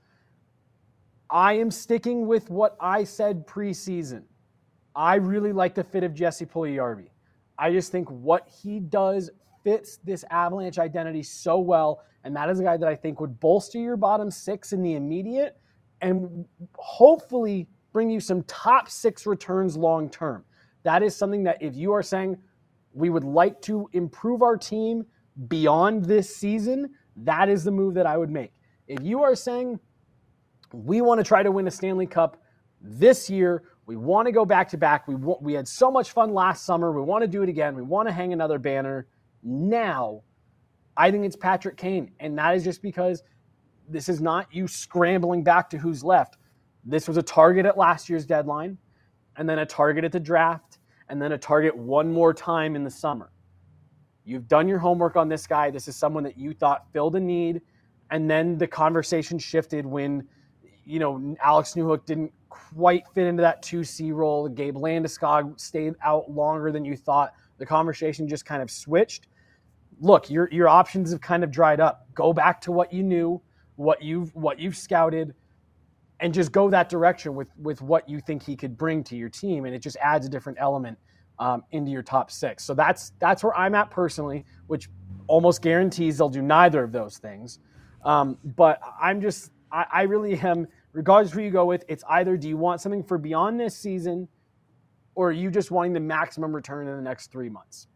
I am sticking with what I said preseason. I really like the fit of Jesse Puljujarvi. I just think what he does fits this Avalanche identity so well, and that is a guy that I think would bolster your bottom six in the immediate and hopefully bring you some top six returns long term. That is something that if you are saying we would like to improve our team beyond this season, that is the move that I would make. If you are saying we want to try to win a Stanley Cup this year, we want to go back-to-back, we want, we had so much fun last summer, we want to do it again, we want to hang another banner, now I think it's Patrick Kane. And that is just because this is not you scrambling back to who's left. This was a target at last year's deadline, and then a target at the draft, and then a target one more time in the summer. You've done your homework on this guy. This is someone that you thought filled a need, and then the conversation shifted when, you know, Alex Newhook didn't quite fit into that two C role. Gabe Landeskog stayed out longer than you thought. The conversation just kind of switched. Look, your your options have kind of dried up. Go back to what you knew, what you've what you've scouted, and just go that direction with with what you think he could bring to your team, and it just adds a different element um, into your top six. So that's that's where I'm at personally, which almost guarantees they'll do neither of those things. Um, but I'm just I, I really am, regardless of who you go with, it's either do you want something for beyond this season, or are you just wanting the maximum return in the next three months?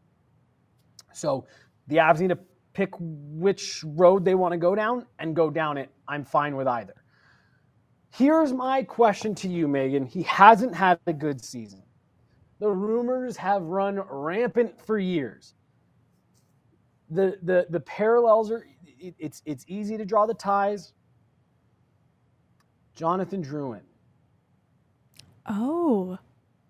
So the Avs need to pick which road they want to go down and go down it. I'm fine with either. Here's my question to you, Megan. He hasn't had a good season. The rumors have run rampant for years. The the the parallels are, it, it's it's easy to draw the ties. Jonathan Drouin. Oh.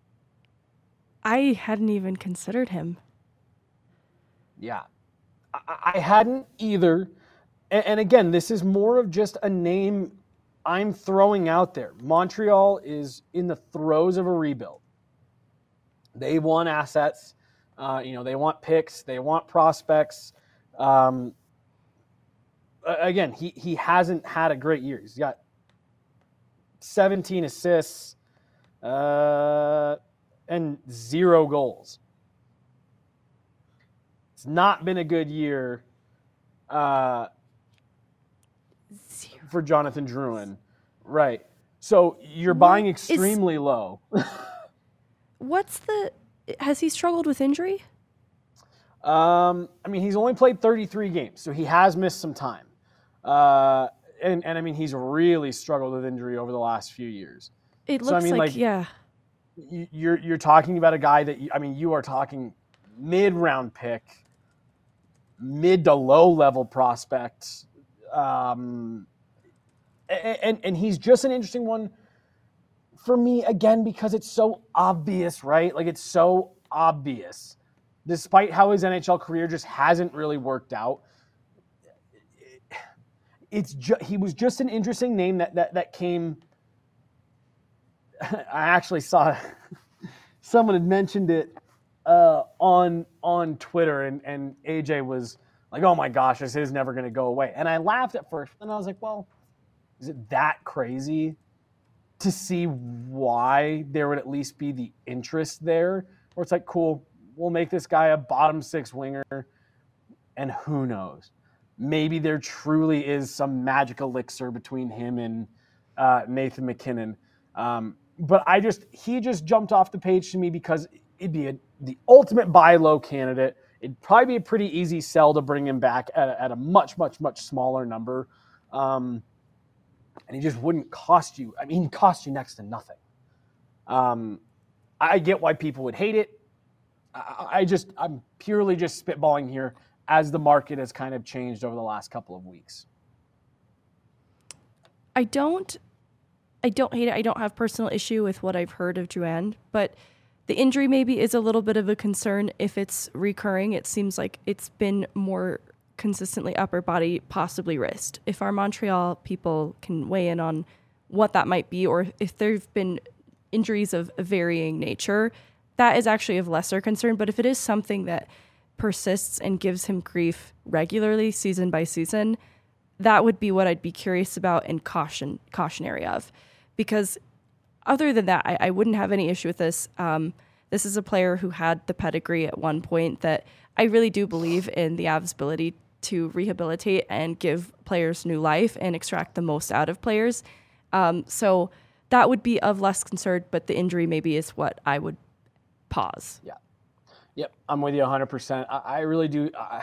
I hadn't even considered him. Yeah. I, I hadn't either. And, and again, this is more of just a name I'm throwing out there. Montreal is in the throes of a rebuild. They want assets. Uh, you know, they want picks. They want prospects. Um, again, he he hasn't had a great year. He's got seventeen assists uh, and zero goals. It's not been a good year uh, for Jonathan Drouin. Right. So you're What buying is- extremely low. What's the... Has he struggled with injury? Um, I mean, he's only played thirty-three games, so he has missed some time. Uh, and, and I mean, he's really struggled with injury over the last few years. It looks so, I mean, like, like, yeah. You're, you're talking about a guy that, you, I mean, you are talking mid-round pick, mid to low-level prospect. Um, and, and he's just an interesting one for me, again, because it's so obvious, right? Like, it's so obvious. Despite how his N H L career just hasn't really worked out, it's ju- he was just an interesting name that that that came. I actually saw someone had mentioned it uh, on on Twitter, and and A J was like, "Oh my gosh, this is never going to go away." And I laughed at first, and I was like, "Well, is it that crazy to see why there would at least be the interest there?" Where it's like, cool. We'll make this guy a bottom six winger, and who knows? Maybe there truly is some magic elixir between him and uh, Nathan MacKinnon. Um, but I just he just jumped off the page to me because it'd be a, the ultimate buy low candidate. It'd probably be a pretty easy sell to bring him back at a, at a much, much, much smaller number. Um, and he just wouldn't cost you. I mean, he'd cost you next to nothing. Um, I get why people would hate it. I just, I'm purely just spitballing here as the market has kind of changed over the last couple of weeks. I don't, I don't hate it. I don't have personal issue with what I've heard of Drouin, but the injury maybe is a little bit of a concern if it's recurring. It seems like it's been more consistently upper body, possibly wrist. If our Montreal people can weigh in on what that might be, or if there've been injuries of varying nature, that is actually of lesser concern. But if it is something that persists and gives him grief regularly, season by season, that would be what I'd be curious about and caution cautionary of. Because other than that, I, I wouldn't have any issue with this. Um, this is a player who had the pedigree at one point that I really do believe in the Avs' ability to rehabilitate and give players new life and extract the most out of players. Um, so that would be of less concern, but the injury maybe is what I would pause. Yeah. Yep. I'm with you one hundred percent. I, I really do. I,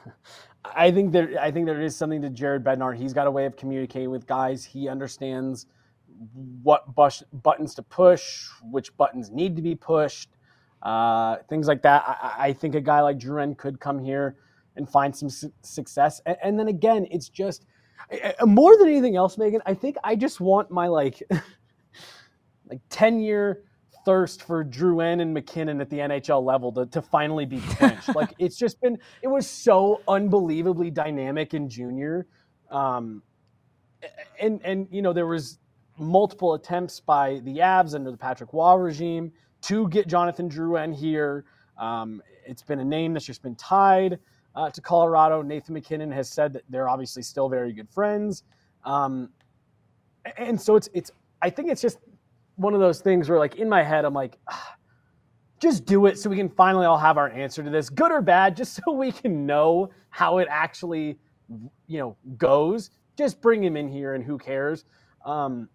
I think there, I think there is something to Jared Bednar. He's got a way of communicating with guys. He understands what bus, buttons to push, which buttons need to be pushed, uh, things like that. I, I think a guy like Drouin could come here and find some su- success. And, and then again, it's just more than anything else, Megan, I think I just want my like, like ten year thirst for Drouin and MacKinnon at the N H L level to, to finally be quenched. Like, it's just been, it was so unbelievably dynamic in junior. Um, and, and, you know, there was multiple attempts by the Avs under the Patrick Waugh regime to get Jonathan Drouin here. Um, it's been a name that's just been tied uh, to Colorado. Nathan MacKinnon has said that they're obviously still very good friends. Um, and so it's, it's, I think it's just one of those things where, like, in my head, I'm like, ah, just do it so we can finally all have our answer to this, good or bad, just so we can know how it actually, you know, goes. Just bring him in here and who cares? Um,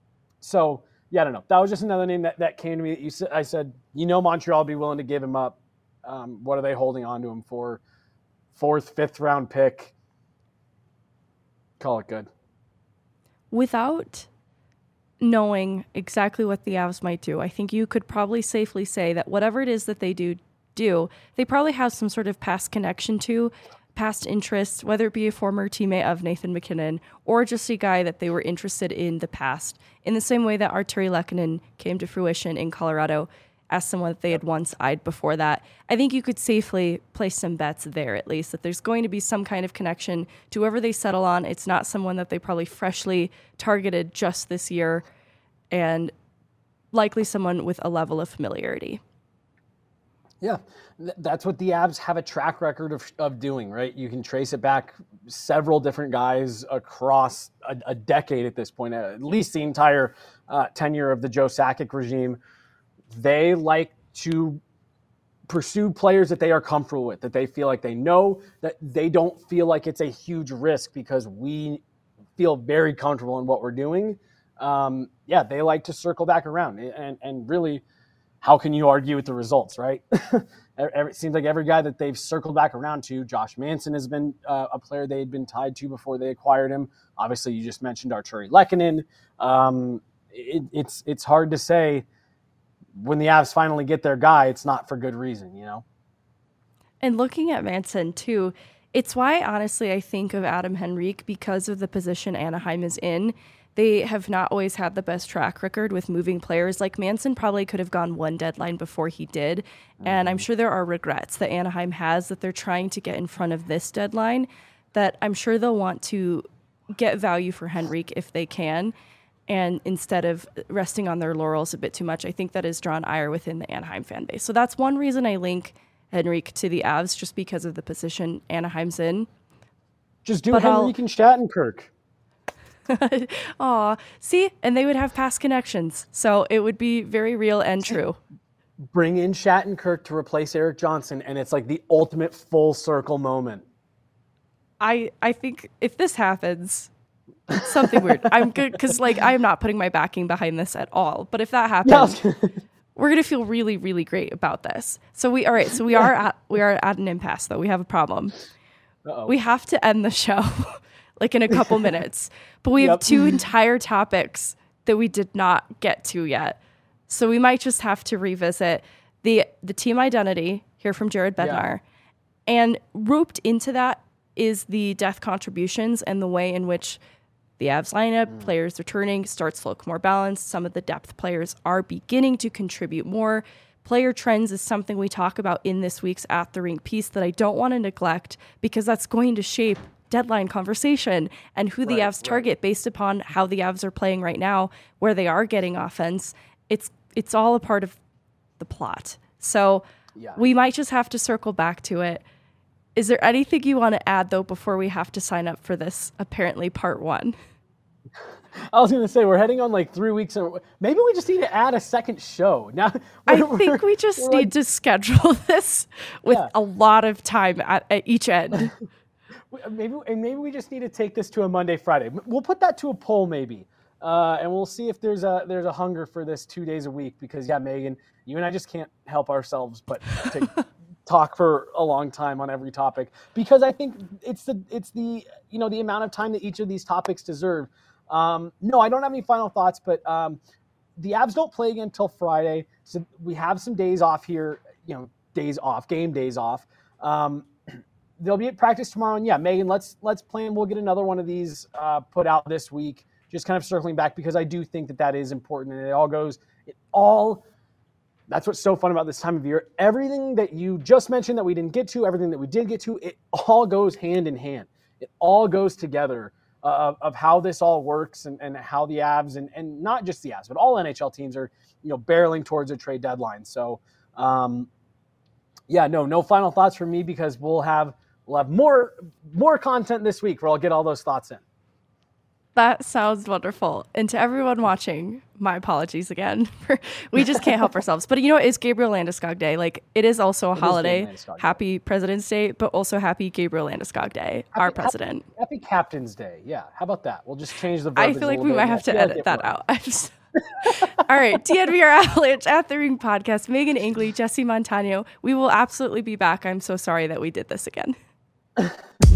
so, yeah, I don't know. That was just another name that, that came to me. That you said, I said, you know, Montreal will be willing to give him up. Um, what are they holding on to him for? Fourth, fifth round pick. Call it good. Without knowing exactly what the Avs might do, I think you could probably safely say that whatever it is that they do, do, they probably have some sort of past connection to, past interest, whether it be a former teammate of Nathan MacKinnon or just a guy that they were interested in the past, in the same way that Artturi Lehkonen came to fruition in Colorado as someone that they had once eyed before that. I think you could safely place some bets there, at least, that there's going to be some kind of connection to whoever they settle on. It's not someone that they probably freshly targeted just this year, and likely someone with a level of familiarity. Yeah, that's what the Avs have a track record of, of doing, right? You can trace it back several different guys across a, a decade at this point, at least the entire uh, tenure of the Joe Sakic regime. They like to pursue players that they are comfortable with, that they feel like they know, that they don't feel like it's a huge risk because we feel very comfortable in what we're doing. Um, yeah, they like to circle back around. And, and really, how can you argue with the results, right? It seems like every guy that they've circled back around to, Josh Manson has been uh, a player they had been tied to before they acquired him. Obviously, you just mentioned Arturi Lehkonen. Um, it, it's it's hard to say when the Avs finally get their guy, it's not for good reason, you know? And looking at Manson, too, it's why, honestly, I think of Adam Henrique because of the position Anaheim is in. They have not always had the best track record with moving players. Like Manson probably could have gone one deadline before he did. Mm-hmm. And I'm sure there are regrets that Anaheim has that they're trying to get in front of this deadline, that I'm sure they'll want to get value for Henrique if they can. And instead of resting on their laurels a bit too much, I think that has drawn ire within the Anaheim fan base. So that's one reason I link Henrique to the Avs, just because of the position Anaheim's in. Just do but Henrique I'll... and Shattenkirk. Aw, see? And they would have past connections. So it would be very real and true. Bring in Shattenkirk to replace Erik Johnson, and it's like the ultimate full circle moment. I I think if this happens, something weird. I'm good, because like I'm not putting my backing behind this at all. But if that happens, yeah. We're gonna feel really, really great about this. So we all right, so we are at we are at an impasse though. We have a problem. Uh-oh. We have to end the show. Like in a couple minutes. But we have yep. two entire topics that we did not get to yet. So we might just have to revisit the the team identity, hear from Jared Bednar. Yeah. And roped into that is the death contributions and the way in which the Avs lineup, mm. players returning, starts to look more balanced. Some of the depth players are beginning to contribute more. Player trends is something we talk about in this week's At the Rink piece that I don't want to neglect, because that's going to shape deadline conversation and who the right, Avs target right. based upon how the Avs are playing right now, where they are getting offense. It's it's all a part of the plot. So yeah. we might just have to circle back to it. Is there anything you want to add, though, before we have to sign up for this, apparently, part one? I was going to say, we're heading on like three weeks. And maybe we just need to add a second show. Now, I think we just need like, to schedule this with yeah. a lot of time at, at each end. Maybe and maybe we just need to take this to a Monday, Friday. We'll put that to a poll maybe, uh, and we'll see if there's a there's a hunger for this two days a week. Because yeah, Megan, you and I just can't help ourselves but to talk for a long time on every topic. Because I think it's the it's the you know the amount of time that each of these topics deserve. Um, no, I don't have any final thoughts, but um, the Avs don't play again until Friday, so we have some days off here. You know, days off, game days off. Um, They'll be at practice tomorrow, and yeah, Megan, let's let's plan. We'll get another one of these uh, put out this week. Just kind of circling back, because I do think that that is important, and it all goes. It all. That's what's so fun about this time of year. Everything that you just mentioned that we didn't get to, everything that we did get to, it all goes hand in hand. It all goes together uh, of, of how this all works, and, and how the Avs and and not just the Avs, but all N H L teams are you know barreling towards a trade deadline. So, um, yeah, no, no final thoughts from me, because we'll have. We'll have more more content this week where I'll get all those thoughts in. That sounds wonderful. And to everyone watching, my apologies again. We just can't help ourselves. But you know, it's Gabriel Landeskog Day. Like, it is also a it holiday. Happy President's Day, but also happy Gabriel Landeskog Day, happy, our president. Happy, happy Captain's Day. Yeah. How about that? We'll just change the verbiage. I feel like we might have to edit like that out. I'm just... All right, D N V R Avalanche At the Rink podcast. Megan Angley, Jesse Montano. We will absolutely be back. I'm so sorry that we did this again.